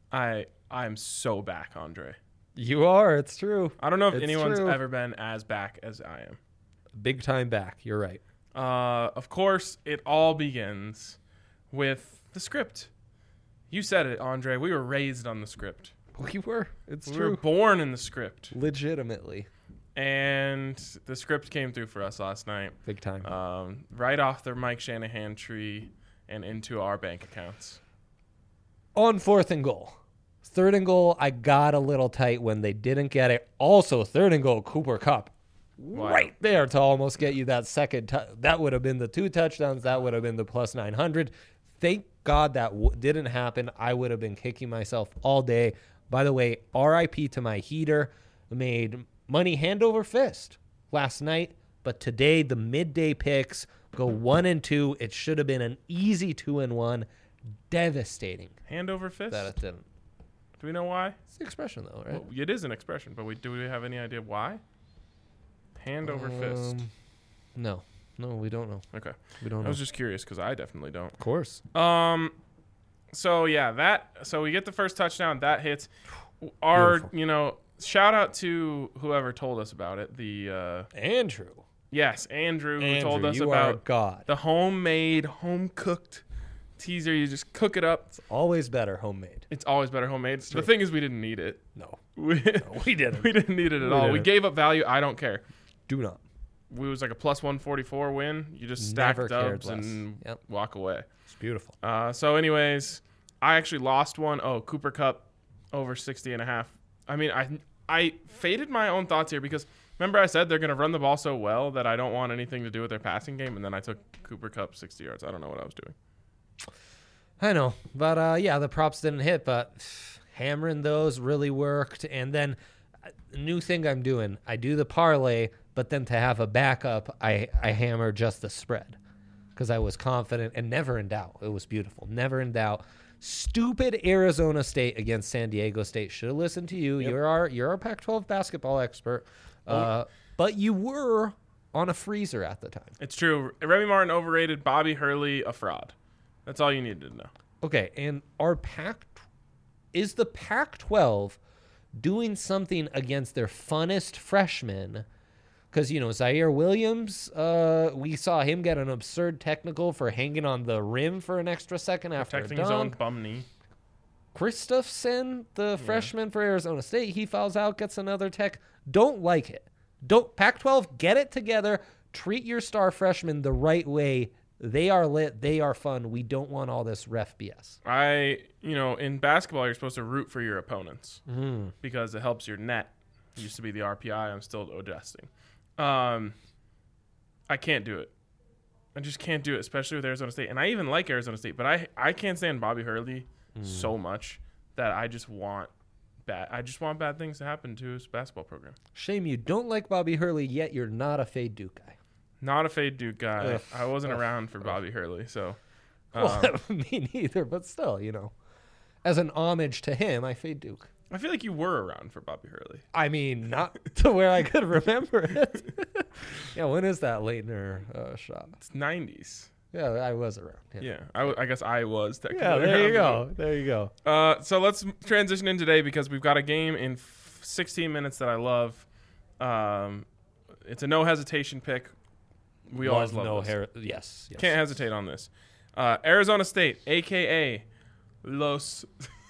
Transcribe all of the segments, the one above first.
I'm so back, Andre. You are. It's true. I don't know if It's anyone's true. ever been as back as I am. Big time back. You're right. Of course, it all begins with the script. You said it, Andre. We were raised on the script. We were. It's We true. were born in the script. Legitimately. And the script came through for us last night. Big time. Right off the Mike Shanahan tree and into our bank accounts. On 4th and goal. 3rd and goal, I got a little tight when they didn't get it. Also, 3rd and goal, Cooper Kupp. Wow. Right there to almost get you that second. That would have been the 2 touchdowns. That would have been the plus 900. Thank God that didn't happen. I would have been kicking myself all day. By the way, RIP to my heater. Made money hand over fist last night. But today, the midday picks go 1 and 2. It should have been an easy 2 and 1. Devastating Hand over fist? that it didn't. Do we know why? It's the expression, though, right? Well, it is an expression, but do we have any idea why? Hand over fist. No, we don't know. Okay. We don't I know. was just curious because I definitely don't. Of course. So yeah, so we get the first touchdown, that hits. Our, Beautiful. Shout out to whoever told us about it. Andrew. Yes, Andrew who told us you are about God. the homemade, home cooked teaser. You just cook it up. Always better homemade. It's always better homemade. true. The thing is, we didn't need it. No, We we didn't. we didn't need it at all. We didn't. gave up value. I don't care. Do not. We was like a plus 144 win. You just stack Never cared dubs less. and Yep. walk away. It's beautiful. So anyways, I actually lost one. Oh, Cooper Kupp over 60.5. I mean, I faded my own thoughts here because remember I said they're going to run the ball so well that I don't want anything to do with their passing game, and then I took Cooper Kupp 60 yards. I don't know what I was doing. I know, but yeah, the props didn't hit, but hammering those really worked. And then new thing I'm doing, I do the parlay, but then to have a backup, I hammer just the spread because I was confident and never in doubt. It was beautiful. Never in doubt. Stupid Arizona State against San Diego State. Should have listened to you. Yep. You're our Pac-12 basketball expert. But you were on a freezer at the time. It's true. Remy Martin overrated. Bobby Hurley a fraud. That's all you needed to know. Okay, and is the Pac-12 doing something against their funnest freshmen? Because, Zaire Williams, we saw him get an absurd technical for hanging on the rim for an extra second after a Protecting dunk. his own bum knee. Christopherson, the freshman for Arizona State, he fouls out, gets another tech. Don't like it. Pac-12, get it together. Treat your star freshmen the right way. They are lit. They are fun. We don't want all this ref BS. In basketball, you're supposed to root for your opponents because it helps your net. It used to be the RPI. I'm still adjusting. I can't do it. I just can't do it, especially with Arizona State. And I even like Arizona State, but I can't stand Bobby Hurley so much that I just want bad things to happen to his basketball program. Shame you don't like Bobby Hurley, yet you're not a Fade Duke guy. Not a Fade Duke guy. Ugh. I wasn't around for Bobby Hurley, so. Well, me neither, but still, as an homage to him, I Fade Duke. I feel like you were around for Bobby Hurley. I mean, not to where I could remember it. Yeah, when is that Leitner shot? It's 90s. Yeah, I was around. Yeah, I guess I was technically. Yeah, there you around. go. There you go. So let's transition in today because we've got a game in 16 minutes that I love. It's a no hesitation pick. We always love this. Yes. Can't hesitate on this. Arizona State, a.k.a. Los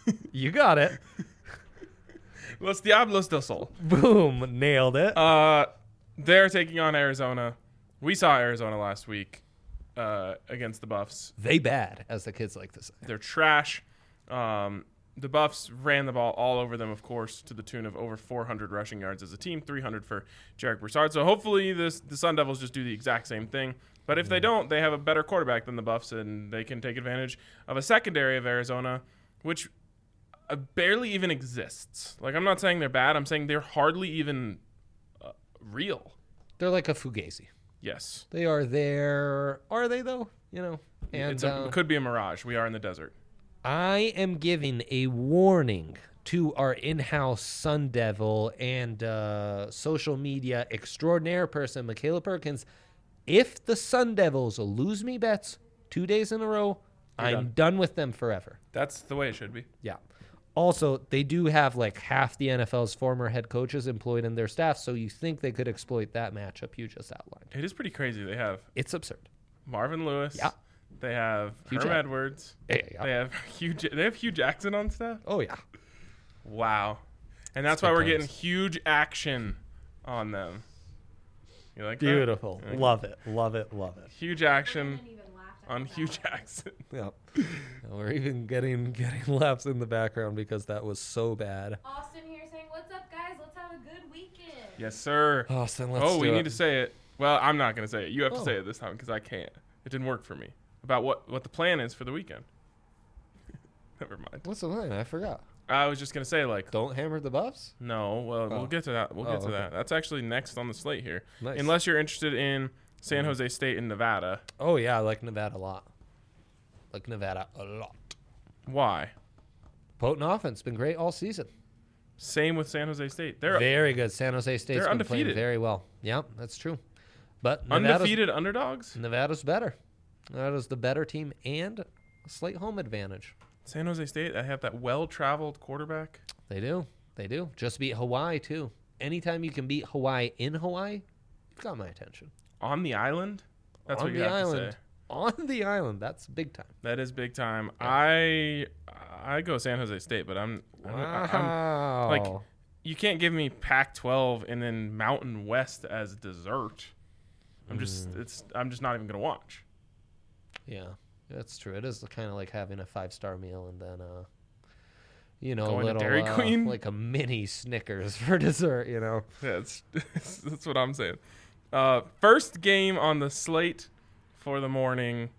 Diablos del Sol. Boom. Nailed it. They're taking on Arizona. We saw Arizona last week against the Buffs. They bad, as the kids like to say. They're trash. The Buffs ran the ball all over them, of course, to the tune of over 400 rushing yards as a team, 300 for Jarek Broussard. So hopefully the Sun Devils just do the exact same thing. But if they don't, they have a better quarterback than the Buffs, and they can take advantage of a secondary of Arizona, which barely even exists. Like, I'm not saying they're bad. I'm saying they're hardly even real. They're like a Fugazi. Yes. They are there. Are they, though? And It could be a mirage. We are in the desert. I am giving a warning to our in-house Sun Devil and social media extraordinaire person, Michaela Perkins. If the Sun Devils lose me bets 2 days in a row, I'm done with them forever. That's the way it should be. Yeah. Also, they do have like half the NFL's former head coaches employed in their staff, so you think they could exploit that matchup you just outlined. It is pretty crazy. They have It's absurd. Marvin Lewis. Yeah. They have Hugh Herm Jack- Edwards. Yeah. They have Hugh Jackson on staff. Oh, yeah. Wow. And that's Good why we're times. getting huge action on them. You like that? Beautiful. Yeah. Love it. Love it. Love it. Huge I action haven't even laughed at on that Hugh one. Jackson. Yep. And we're even getting laughs in the background because that was so bad. Austin here saying, "What's up, guys? Let's have a good weekend." Yes, sir. Austin, let's Oh, we do need it. to say it. Well, I'm not going to say it. You have to Oh. say it this time because I can't. It didn't work for me. About what the plan is for the weekend. Never mind. What's the line? I forgot. I was just going to say, like, Don't hammer the Buffs? no, well, Oh. we'll get to that. We'll get to okay. that. That's actually next on the slate here. Nice. Unless you're interested in San Jose State and Nevada. Oh, yeah. I like Nevada a lot. Like Nevada a lot. Why? Potent offense. Been great all season. Same with San Jose State. They're Very good. San Jose State's they're been playing undefeated. very well. Yep, that's true. But undefeated underdogs. Nevada's better. Nevada's the better team and a slight home advantage. San Jose State, I have that well-traveled quarterback. They do. They do. Just beat Hawaii, too. Anytime you can beat Hawaii in Hawaii, you've got my attention. On the island? That's On what you the have island. to say. On the island. That's big time. That is big time. Yeah. I go San Jose State, but I'm Wow. like, you can't give me Pac-12 and then Mountain West as dessert. I'm just not even gonna watch. Yeah, that's true. It is kind of like having a 5-star meal and then, Going a to little, Dairy Queen? like a mini Snickers for dessert, Yeah, that's what I'm saying. First game on the slate for the morning.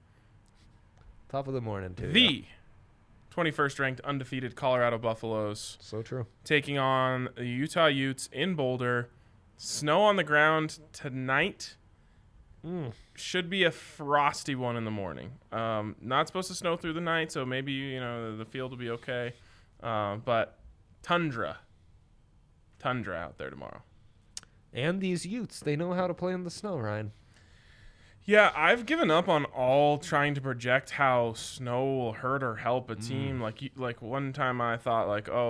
Top of the morning, too. The 21st ranked undefeated Colorado Buffaloes So true. taking on the Utah Utes in Boulder. Snow on the ground tonight. Should be a frosty one in the morning. Not supposed to snow through the night, so maybe the field will be okay. But tundra out there tomorrow. And these Utes, they know how to play in the snow, Ryan. Yeah, I've given up on all trying to project how snow will hurt or help a team. Like one time I thought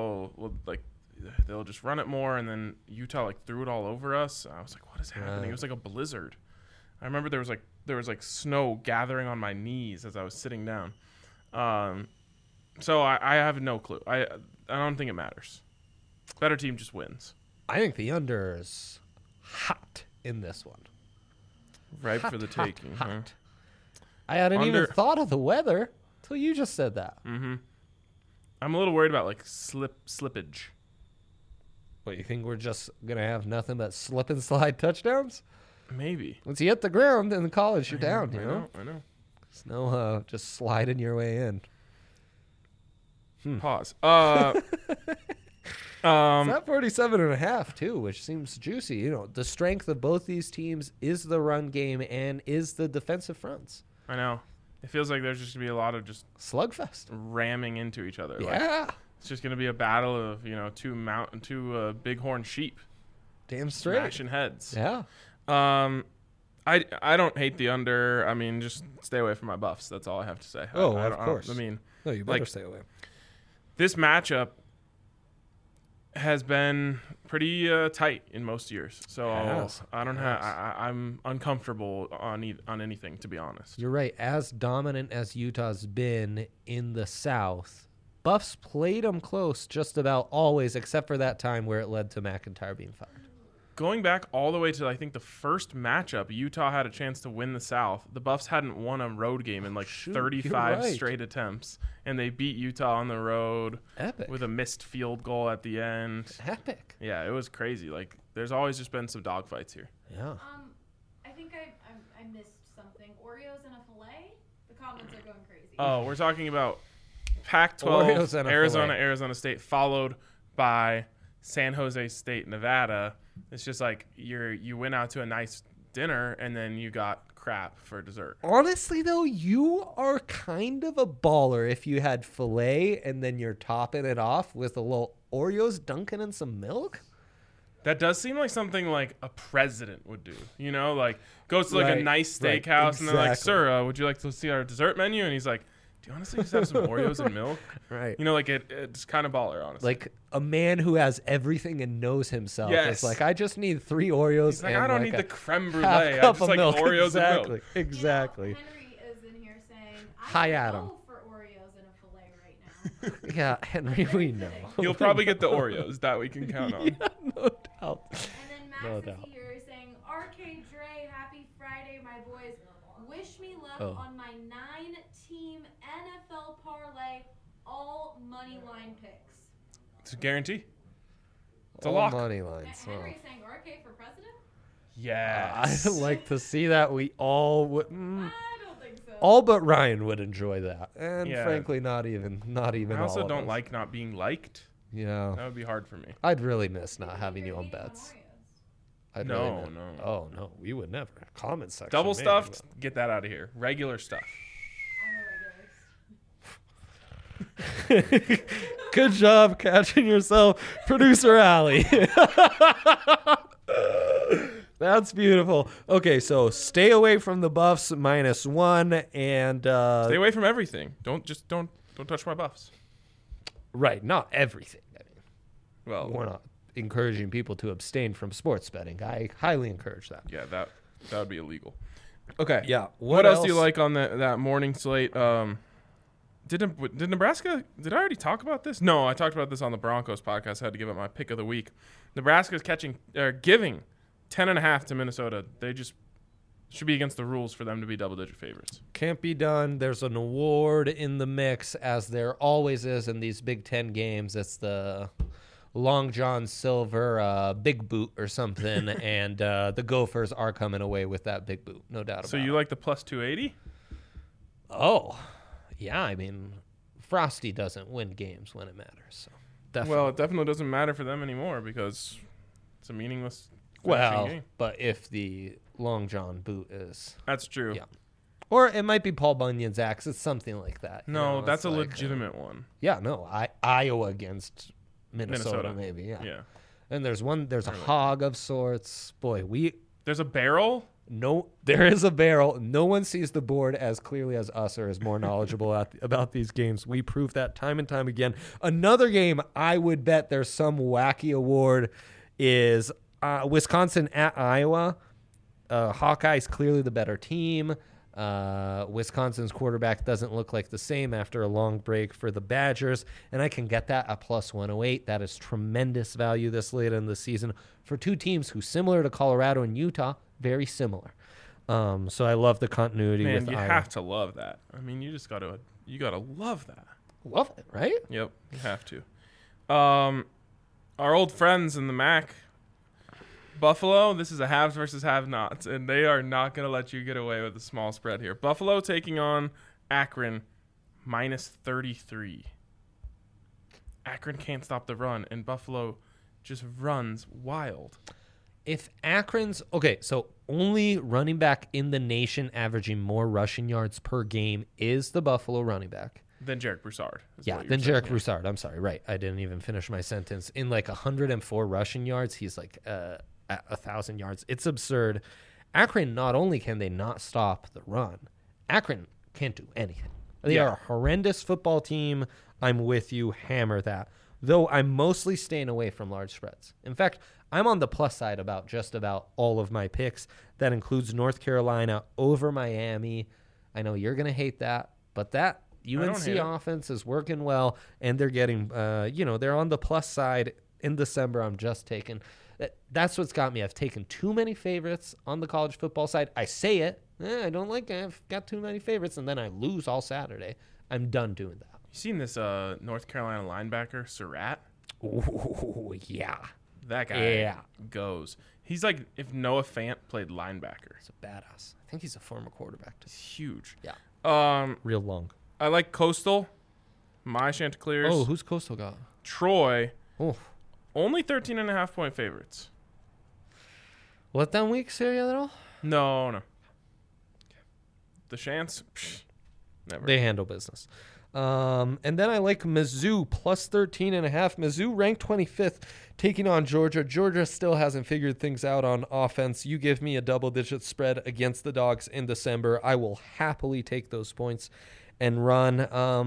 they'll just run it more, and then Utah threw it all over us. I was like, what is happening? Right. It was like a blizzard. I remember there was snow gathering on my knees as I was sitting down. So I have no clue. I don't think it matters. Better team just wins. I think the under is hot in this one. Right Hot, for the hot, taking. hot. I hadn't even Under- thought of the weather till you just said that. Mm-hmm. I'm a little worried about slippage. What, you think we're just going to have nothing but slip and slide touchdowns? Maybe. Once you hit the ground in the college, you're down, I know? I know. There's no just sliding your way in. Pause. It's at 47.5 too, which seems juicy. The strength of both these teams is the run game and is the defensive fronts. I know. It feels like there's just gonna be a lot of just Slugfest. ramming into each other. Like, Yeah. it's just gonna be a battle of two bighorn sheep Damn straight. smashing heads. Yeah. I don't hate the under. I mean, just stay away from my Buffs. That's all I have to say. Oh, I of don't- course. I mean, No, you better Like- stay away. this matchup has been pretty tight in most years. So Yes, I don't yes. have. I'm uncomfortable on anything, to be honest. You're right. As dominant as Utah's been in the South, Buffs played them close just about always, except for that time where it led to McIntyre being fired. Going back all the way to I think the first matchup, Utah had a chance to win the South. The Buffs hadn't won a road game in Shoot, 35 you're right. straight attempts, and they beat Utah on the road Epic. with a missed field goal at the end. Epic. Yeah, it was crazy. There's always just been some dogfights here. Yeah. I think I missed something. Oreos and a fillet. The comments are going crazy. Oh, we're talking about Oreos Pac-12, and a Arizona, fillet. Arizona State, followed by San Jose State, Nevada. It's just like you went out to a nice dinner and then you got crap for dessert. Honestly, though, you are kind of a baller if you had filet and then you're topping it off with a little Oreos dunking in some milk. That does seem like something like a president would do. Goes to a Right, nice right, steakhouse and they're like, exactly. "Sir, would you like to see our dessert menu?" And he's like, Do you honestly just have some Oreos and milk? Right. You know, like it's kind of baller, honestly. Like a man who has everything and knows himself. Yes. It's like, I just need 3 Oreos. He's like, and I don't like need a the creme brulee. half I cup just of like milk. Oreos Exactly. and milk. Exactly. You know, Henry is in here saying, Hi, would Adam. go for Oreos and a filet right now. Yeah, Henry, we know. He'll probably get the Oreos. That we can count on. Yeah, no doubt. And then Max No is doubt. here saying, RK Dre, happy Friday, my boys. Wish me luck Oh. on my 9-team NFL parlay, all money line picks. It's a guarantee. It's a All lock. money lines. Henry saying RK for president? Yes. I'd like to see that. We all would. I don't think so. All but Ryan would enjoy that, and Yeah. frankly, not even I all also of don't us. like not being liked. Yeah, That would be hard for me. I'd really miss not Even if having you're you on hating bets. Oreos. I'd No, really miss- no. Oh no, we would never. Comment section. Double maybe, stuffed, get that out of here. Regular stuff. I'm a regular. but- Good job catching yourself, producer Allie. That's beautiful. Okay, so stay away from the Buffs -1 and Stay away from everything. Don't touch my buffs. right, not everything. I mean, Well, we're not encouraging people to abstain from sports betting. I highly encourage that. yeah, that would be illegal. Okay. Yeah. What else do you like on that morning slate? Did Nebraska? Did I already talk about this? No, I talked about this on the Broncos podcast. I had to give up my pick of the week. Nebraska's giving 10.5 to Minnesota. They just should be against the rules for them to be double-digit favorites. Can't be done. There's an award in the mix, as there always is in these Big Ten games. It's the Long John Silver big boot or something, and the Gophers are coming away with that big boot, no doubt about it. So you like the plus 280? Oh, yeah. I mean, Frosty doesn't win games when it matters. So definitely. Well, it definitely doesn't matter for them anymore because it's a meaningless Well, game. but if the Long John boot is, That's true. Yeah. or it might be Paul Bunyan's axe. It's something like that. you No, know, that's it's a like, legitimate one. Yeah, no, Iowa against Minnesota, Minnesota. maybe. Yeah. Yeah. And there's a hog of sorts. Boy, There's a barrel. there is a barrel. No one sees the board as clearly as us or is more knowledgeable about these games. We prove that time and time again. Another game I would bet there's some wacky award is Wisconsin at Iowa. Hawkeyes clearly the better team. Wisconsin's quarterback doesn't look like the same after a long break for the Badgers, and I can get that at plus 108. That is tremendous value this late in the season for two teams who, similar to Colorado and Utah, very similar. So I love the continuity Man, with you Iowa. have to love that. I mean, you gotta love that. Love it, right? Yep, you have to. Our old friends in the MAC, Buffalo. This is a haves versus have-nots, and they are not gonna let you get away with a small spread here. Buffalo taking on Akron, -33. Akron can't stop the run, and Buffalo just runs wild. If Akron's okay, so only running back in the nation averaging more rushing yards per game is the Buffalo running back. Then Jarek Broussard. is Yeah, what you're then saying, Jarek yeah. Broussard. I'm sorry, right? I didn't even finish my sentence. In like 104 rushing yards, he's like at 1,000 yards. It's absurd. Akron, not only can they not stop the run, Akron can't do anything. They Yeah. are a horrendous football team. I'm with you. Hammer that. Though I'm mostly staying away from large spreads. In fact, I'm on the plus side about just about all of my picks. That includes North Carolina over Miami. I know you're going to hate that, but that don't UNC hate it. offense is working well, and they're getting, they're on the plus side in December. I'm just taking that's what's got me. I've taken too many favorites on the college football side. I say it. I don't like it. I've got too many favorites, and then I lose all Saturday. I'm done doing that. You seen this North Carolina linebacker, Surratt? Oh, yeah. That guy Yeah. goes. He's like if Noah Fant played linebacker. He's a badass. I think he's a former quarterback, too. He's huge. Yeah. Real long. I like Coastal, my Chanticleers. Oh, who's Coastal got? Troy, Oh. only 13.5-point favorites. Let them weeks here a little? No. The Chants, never. They handle business. And then I like Mizzou plus 13.5. Mizzou ranked 25th, taking on Georgia. Georgia still hasn't figured things out on offense. You give me a double-digit spread against the Dogs in December, I will happily take those points. and run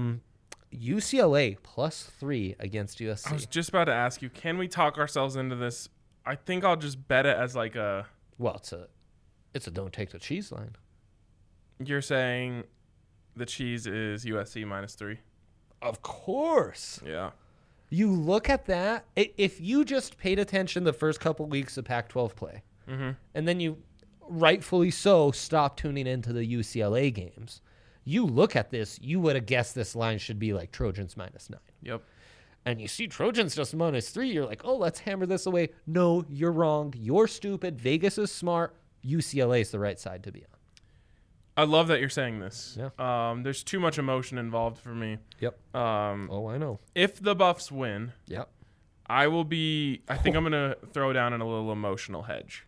UCLA +3 against USC. I was just about to ask you, can we talk ourselves into this? I think I'll just bet it as like a. Well, it's a don't take the cheese line. You're saying the cheese is USC -3. Of course. Yeah. You look at that. If you just paid attention the first couple weeks of Pac-12 play, and then you, rightfully so, stopped tuning into the UCLA games, you look at this, you would have guessed this line should be like Trojans -9. Yep. And you see Trojans just -3, you're like, oh, let's hammer this away. No, you're wrong. You're stupid. Vegas is smart. UCLA is the right side to be on. I love that you're saying this. Yeah. There's too much emotion involved for me. Yep. Oh, I know. If the Buffs win, Yep. I think I'm going to throw down in a little emotional hedge.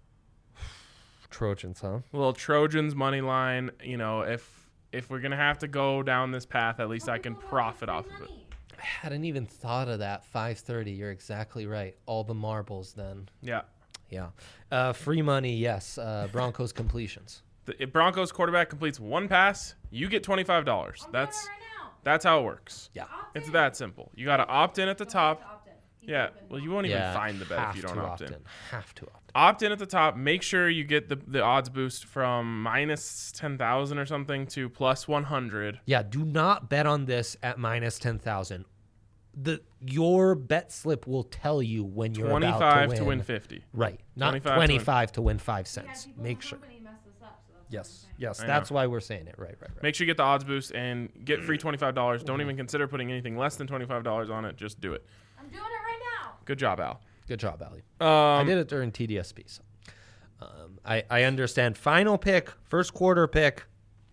Trojans, huh? A little Trojans money line. You know, if we're going to have to go down this path, at least I can profit off of it. I hadn't even thought of that. 5:30. You're exactly right. All the marbles then. Yeah. Yeah. Free money, yes. Broncos completions. If Broncos quarterback completes one pass, you get $25. I'm doing it right now. That's how it works. Yeah. Opt It's in. that simple. You got to opt in at the Don't top. have to opt in. You Yeah. can open Well, you one. won't even find the bet if you don't to opt in. Have to opt in. Opt in at the top. Make sure you get the odds boost from -10,000 or something to +100. Yeah, do not bet on this at -10,000. Your bet slip will tell you when you're about 25 to win 50. Right, not 25 25 to win 5 We had cents. people in Make the sure. company mess this up, so that's what I'm Yes, saying. yes, I that's know. why we're saying it. Right. Make sure you get the odds boost and get free $25. Don't even consider putting anything less than $25 on it. Just do it. I'm doing it right now. Good job, Al. Good job, Ali. I Um, did it during TDSP. So. I understand. Final pick, first quarter pick.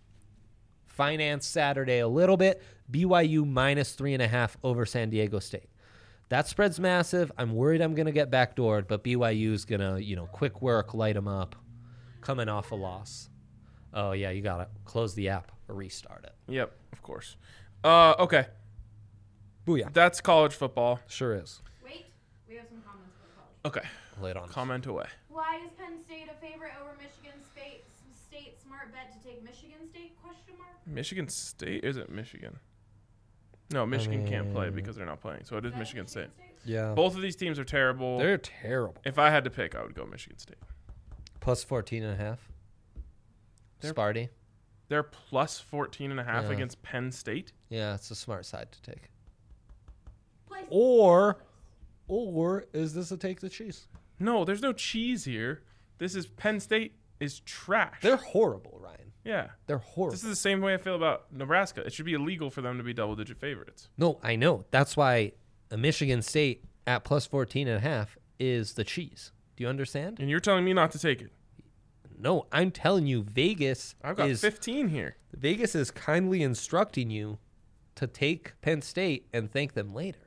Finance Saturday a little bit. BYU -3.5 over San Diego State. That spread's massive. I'm worried I'm going to get backdoored, but BYU's going to, quick work, light them up, coming off a loss. Oh, yeah, you got to close the app or restart it. Yep, of course. Okay. Booyah. That's college football. Sure is. Wait, we have some comments for college. Okay. Lay it on. Comment away. Why is Penn State a favorite over Michigan State? Smart bet to take Michigan State? Question mark. Michigan State? Is it Michigan? No, Michigan can't play because they're not playing. So it is Michigan State. Yeah. Both of these teams are terrible. They're terrible. If I had to pick, I would go Michigan State. Plus 14.5. They're- Sparty. They're plus 14.5 Yeah. against Penn State. Yeah, it's a smart side to take. Place. Or is this a take the cheese? No, there's no cheese here. This is Penn State is trash. They're horrible, Ryan. yeah. They're horrible. This is the same way I feel about Nebraska. It should be illegal for them to be double-digit favorites. No, I know. That's why a Michigan State at plus 14.5 is the cheese. Do you understand? And you're telling me not to take it. No, I'm telling you, Vegas I've got is 15 here. Vegas is kindly instructing you to take Penn State and thank them later.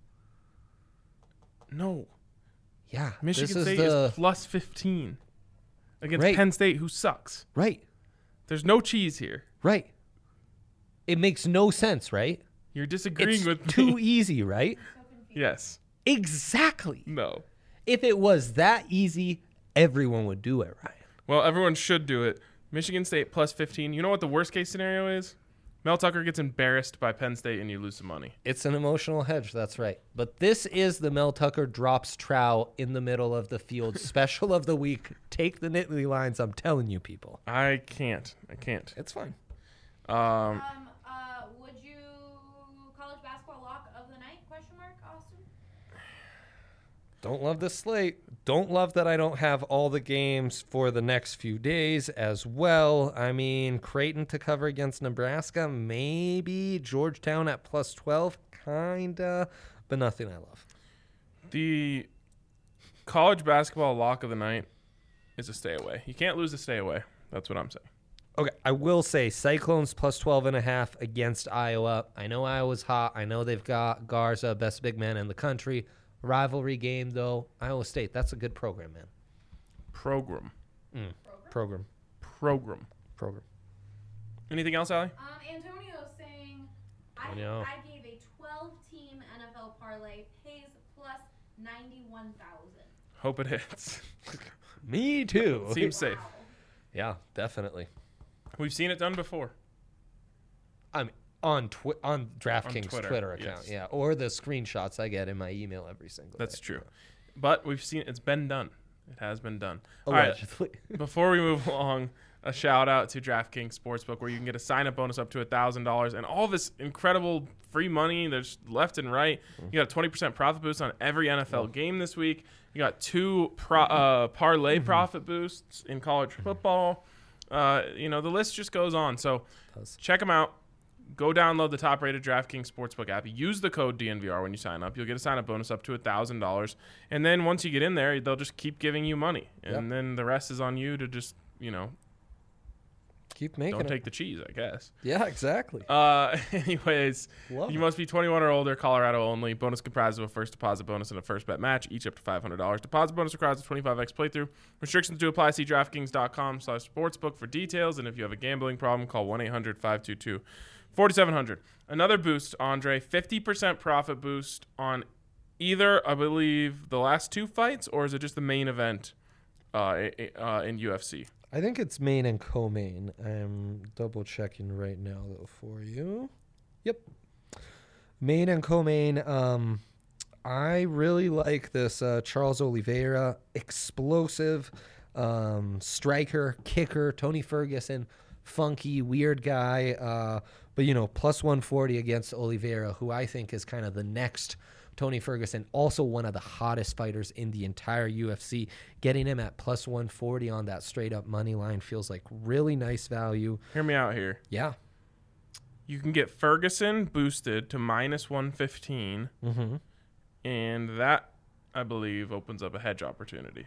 No. Yeah, Michigan this is State the is plus 15 against Right. Penn State, who sucks. right, There's no cheese here. right. It makes no sense, right? You're disagreeing It's with too me. easy, right? So confused. Yes. Exactly. No. If it was that easy, everyone would do it, Ryan. Well, everyone should do it. Michigan State plus 15. You know what the worst case scenario is? Mel Tucker gets embarrassed by Penn State and you lose some money. It's an emotional hedge, that's right. But this is the Mel Tucker drops trowel in the middle of the field special of the week. Take the Nittany lines, I'm telling you, people. I can't. It's fine. Would you college basketball lock of the night? Question mark, Austin. Don't love this slate. Don't love that I don't have all the games for the next few days as well. I mean, Creighton to cover against Nebraska, maybe. Georgetown at plus 12, kinda, but nothing I love. The college basketball lock of the night is a stay away. You can't lose a stay away. That's what I'm saying. Okay, I will say Cyclones plus 12.5 against Iowa. I know Iowa's hot. I know they've got Garza, best big man in the country. Rivalry game, though. Iowa State, that's a good program, man. Program. Program. Anything else, Allie? Antonio's saying, I know. I gave a 12-team NFL parlay, pays plus 91,000. Hope it hits. Me too. Seems safe. Wow. Yeah, definitely. We've seen it done before. I'm on DraftKings Twitter, Twitter account, yes. yeah, or the screenshots I get in my email every single That's day. true. But we've seen it's been done. It has been done. All right. Allegedly. Before we move along, a shout out to DraftKings Sportsbook, where you can get a sign up bonus up to $1,000 and all this incredible free money. There's left and right. You got a 20% profit boost on every NFL game this week. You got 2 parlay profit boosts in college football. The list just goes on. So check them out. Go download the top-rated DraftKings Sportsbook app. Use the code DNVR when you sign up. You'll get a sign-up bonus up to $1,000. And then once you get in there, they'll just keep giving you money. And then the rest is on you to just, keep making don't it. take the cheese, I guess. Yeah, exactly. Anyways, you must be 21 or older, Colorado only. Bonus comprises of a first deposit bonus and a first bet match, each up to $500. Deposit bonus requires a 25x playthrough. Restrictions do apply. See DraftKings.com/sportsbook for details. And if you have a gambling problem, call 1-800-522-4700. Another boost, Andre, 50% profit boost on either, I believe, the last 2 fights, or is it just the main event in UFC? I think it's main and co-main. I'm double checking right now though for you. Yep. Main and co-main. I really like this Charles Oliveira, explosive striker, kicker, Tony Ferguson, funky, weird guy. But plus 140 against Oliveira, who I think is kind of the next Tony Ferguson, also one of the hottest fighters in the entire UFC. Getting him at plus 140 on that straight up money line feels like really nice value. Hear me out here. Yeah. You can get Ferguson boosted to minus 115, and that, I believe, opens up a hedge opportunity.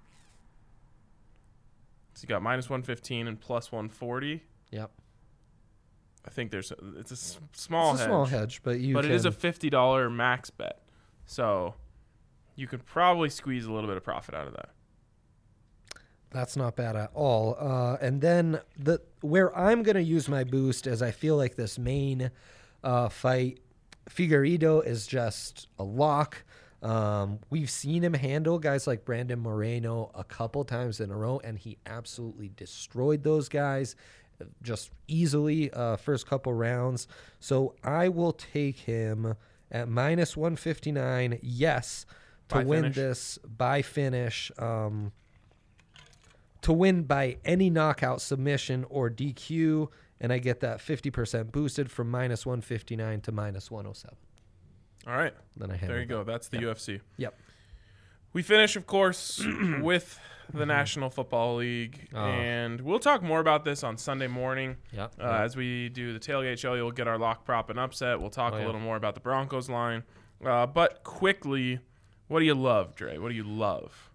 So you got minus 115 and plus 140. Yep. I think it's a small hedge. It's a small hedge, but it is a $50 max bet. So you could probably squeeze a little bit of profit out of that. That's not bad at all. And then where I'm going to use my boost is I feel like this main fight, Figueiredo is just a lock. We've seen him handle guys like Brandon Moreno a couple times in a row, and he absolutely destroyed those guys just easily first couple rounds. So I will take him at minus 159, yes, to win this by finish, to win by any knockout, submission, or DQ, and I get that 50% boosted from minus 159 to minus 107. All right. Then I there you go. That's the UFC. Yep. We finish, of course, with the National Football League, and we'll talk more about this on Sunday morning. As we do the tailgate show, you'll get our lock, prop, and upset. We'll talk a little more about the Broncos line. But quickly, what do you love, Dre? What do you love?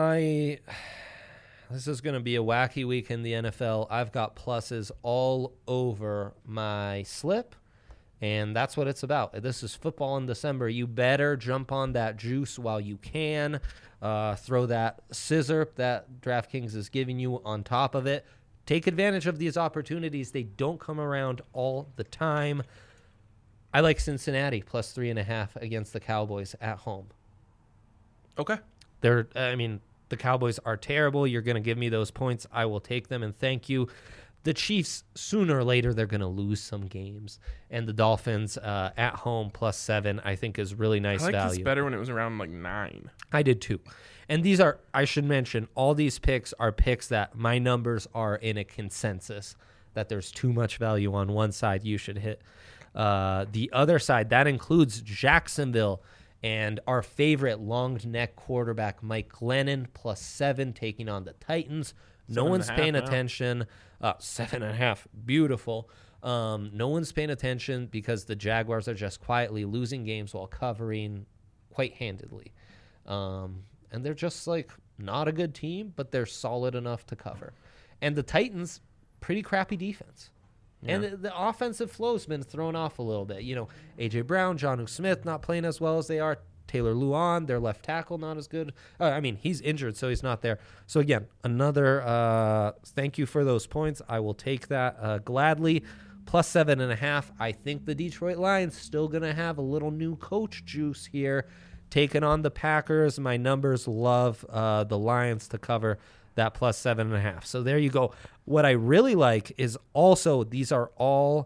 This is going to be a wacky week in the NFL. I've got pluses all over my slip, and that's what it's about. This is football in December. You better jump on that juice while you can. Throw that scissor that DraftKings is giving you on top of it. Take advantage of these opportunities. They don't come around all the time. I like Cincinnati plus 3.5 against the Cowboys at home. Okay. The Cowboys are terrible. You're going to give me those points. I will take them, and thank you. The Chiefs, sooner or later, they're going to lose some games. And the Dolphins at home plus 7, I think, is really nice value. I like this better when it was around 9. I did too. And these are, I should mention, all these picks are picks that my numbers are in a consensus, that there's too much value on one side you should hit. The other side, that includes Jacksonville and our favorite long neck quarterback, Mike Glennon, plus 7, taking on the Titans. No one's paying attention. 7.5, beautiful. No one's paying attention because the Jaguars are just quietly losing games while covering quite handedly. And they're just not a good team, but they're solid enough to cover. And the Titans, pretty crappy defense. Yeah. And the offensive flow's been thrown off a little bit. A.J. Brown, Jonnu Smith not playing as well as they are. Taylor Luan, their left tackle, not as good. He's injured, so he's not there. So, again, another thank you for those points. I will take that gladly. Plus 7.5. I think the Detroit Lions still going to have a little new coach juice here. Taking on the Packers. My numbers love the Lions to cover that plus 7.5. So there you go. What I really like is also these are all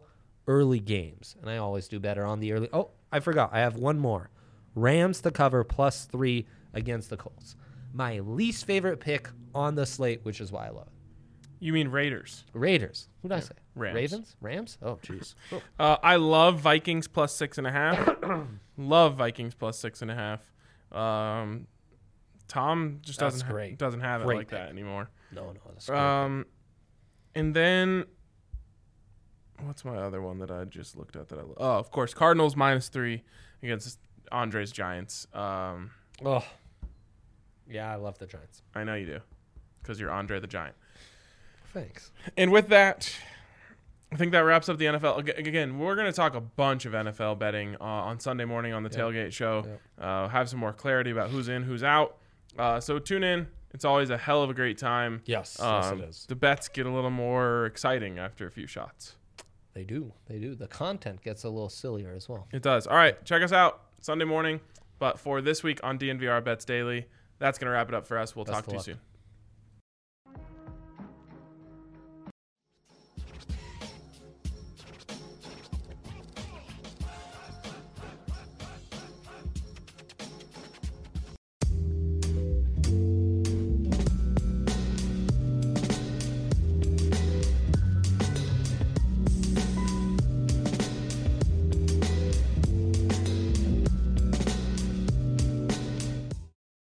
early games, and I always do better on the early. Oh, I forgot. I have one more. Rams to cover +3 against the Colts. My least favorite pick on the slate, which is why I love it. You mean Raiders? Raiders. Who did I say? Rams. Ravens? Rams? Oh, jeez. I love Vikings +6.5. Love Vikings +6.5. Tom just That's doesn't great. doesn't have it Great like that pick. anymore. No, that's great. And then what's my other one that I just looked at that I love? Oh, of course, Cardinals -3 against Andre's Giants. Oh, yeah, I love the Giants. I know you do, because you're Andre the Giant. Thanks. And with that, I think that wraps up the NFL. Again, we're going to talk a bunch of NFL betting on Sunday morning on the Tailgate Show. Have some more clarity about who's in, who's out. So tune in. It's always a hell of a great time. Yes, it is. The bets get a little more exciting after a few shots. They do. The content gets a little sillier as well. It does. All right, check us out Sunday morning. But for this week on DNVR Bets Daily, that's going to wrap it up for us. We'll talk to you soon.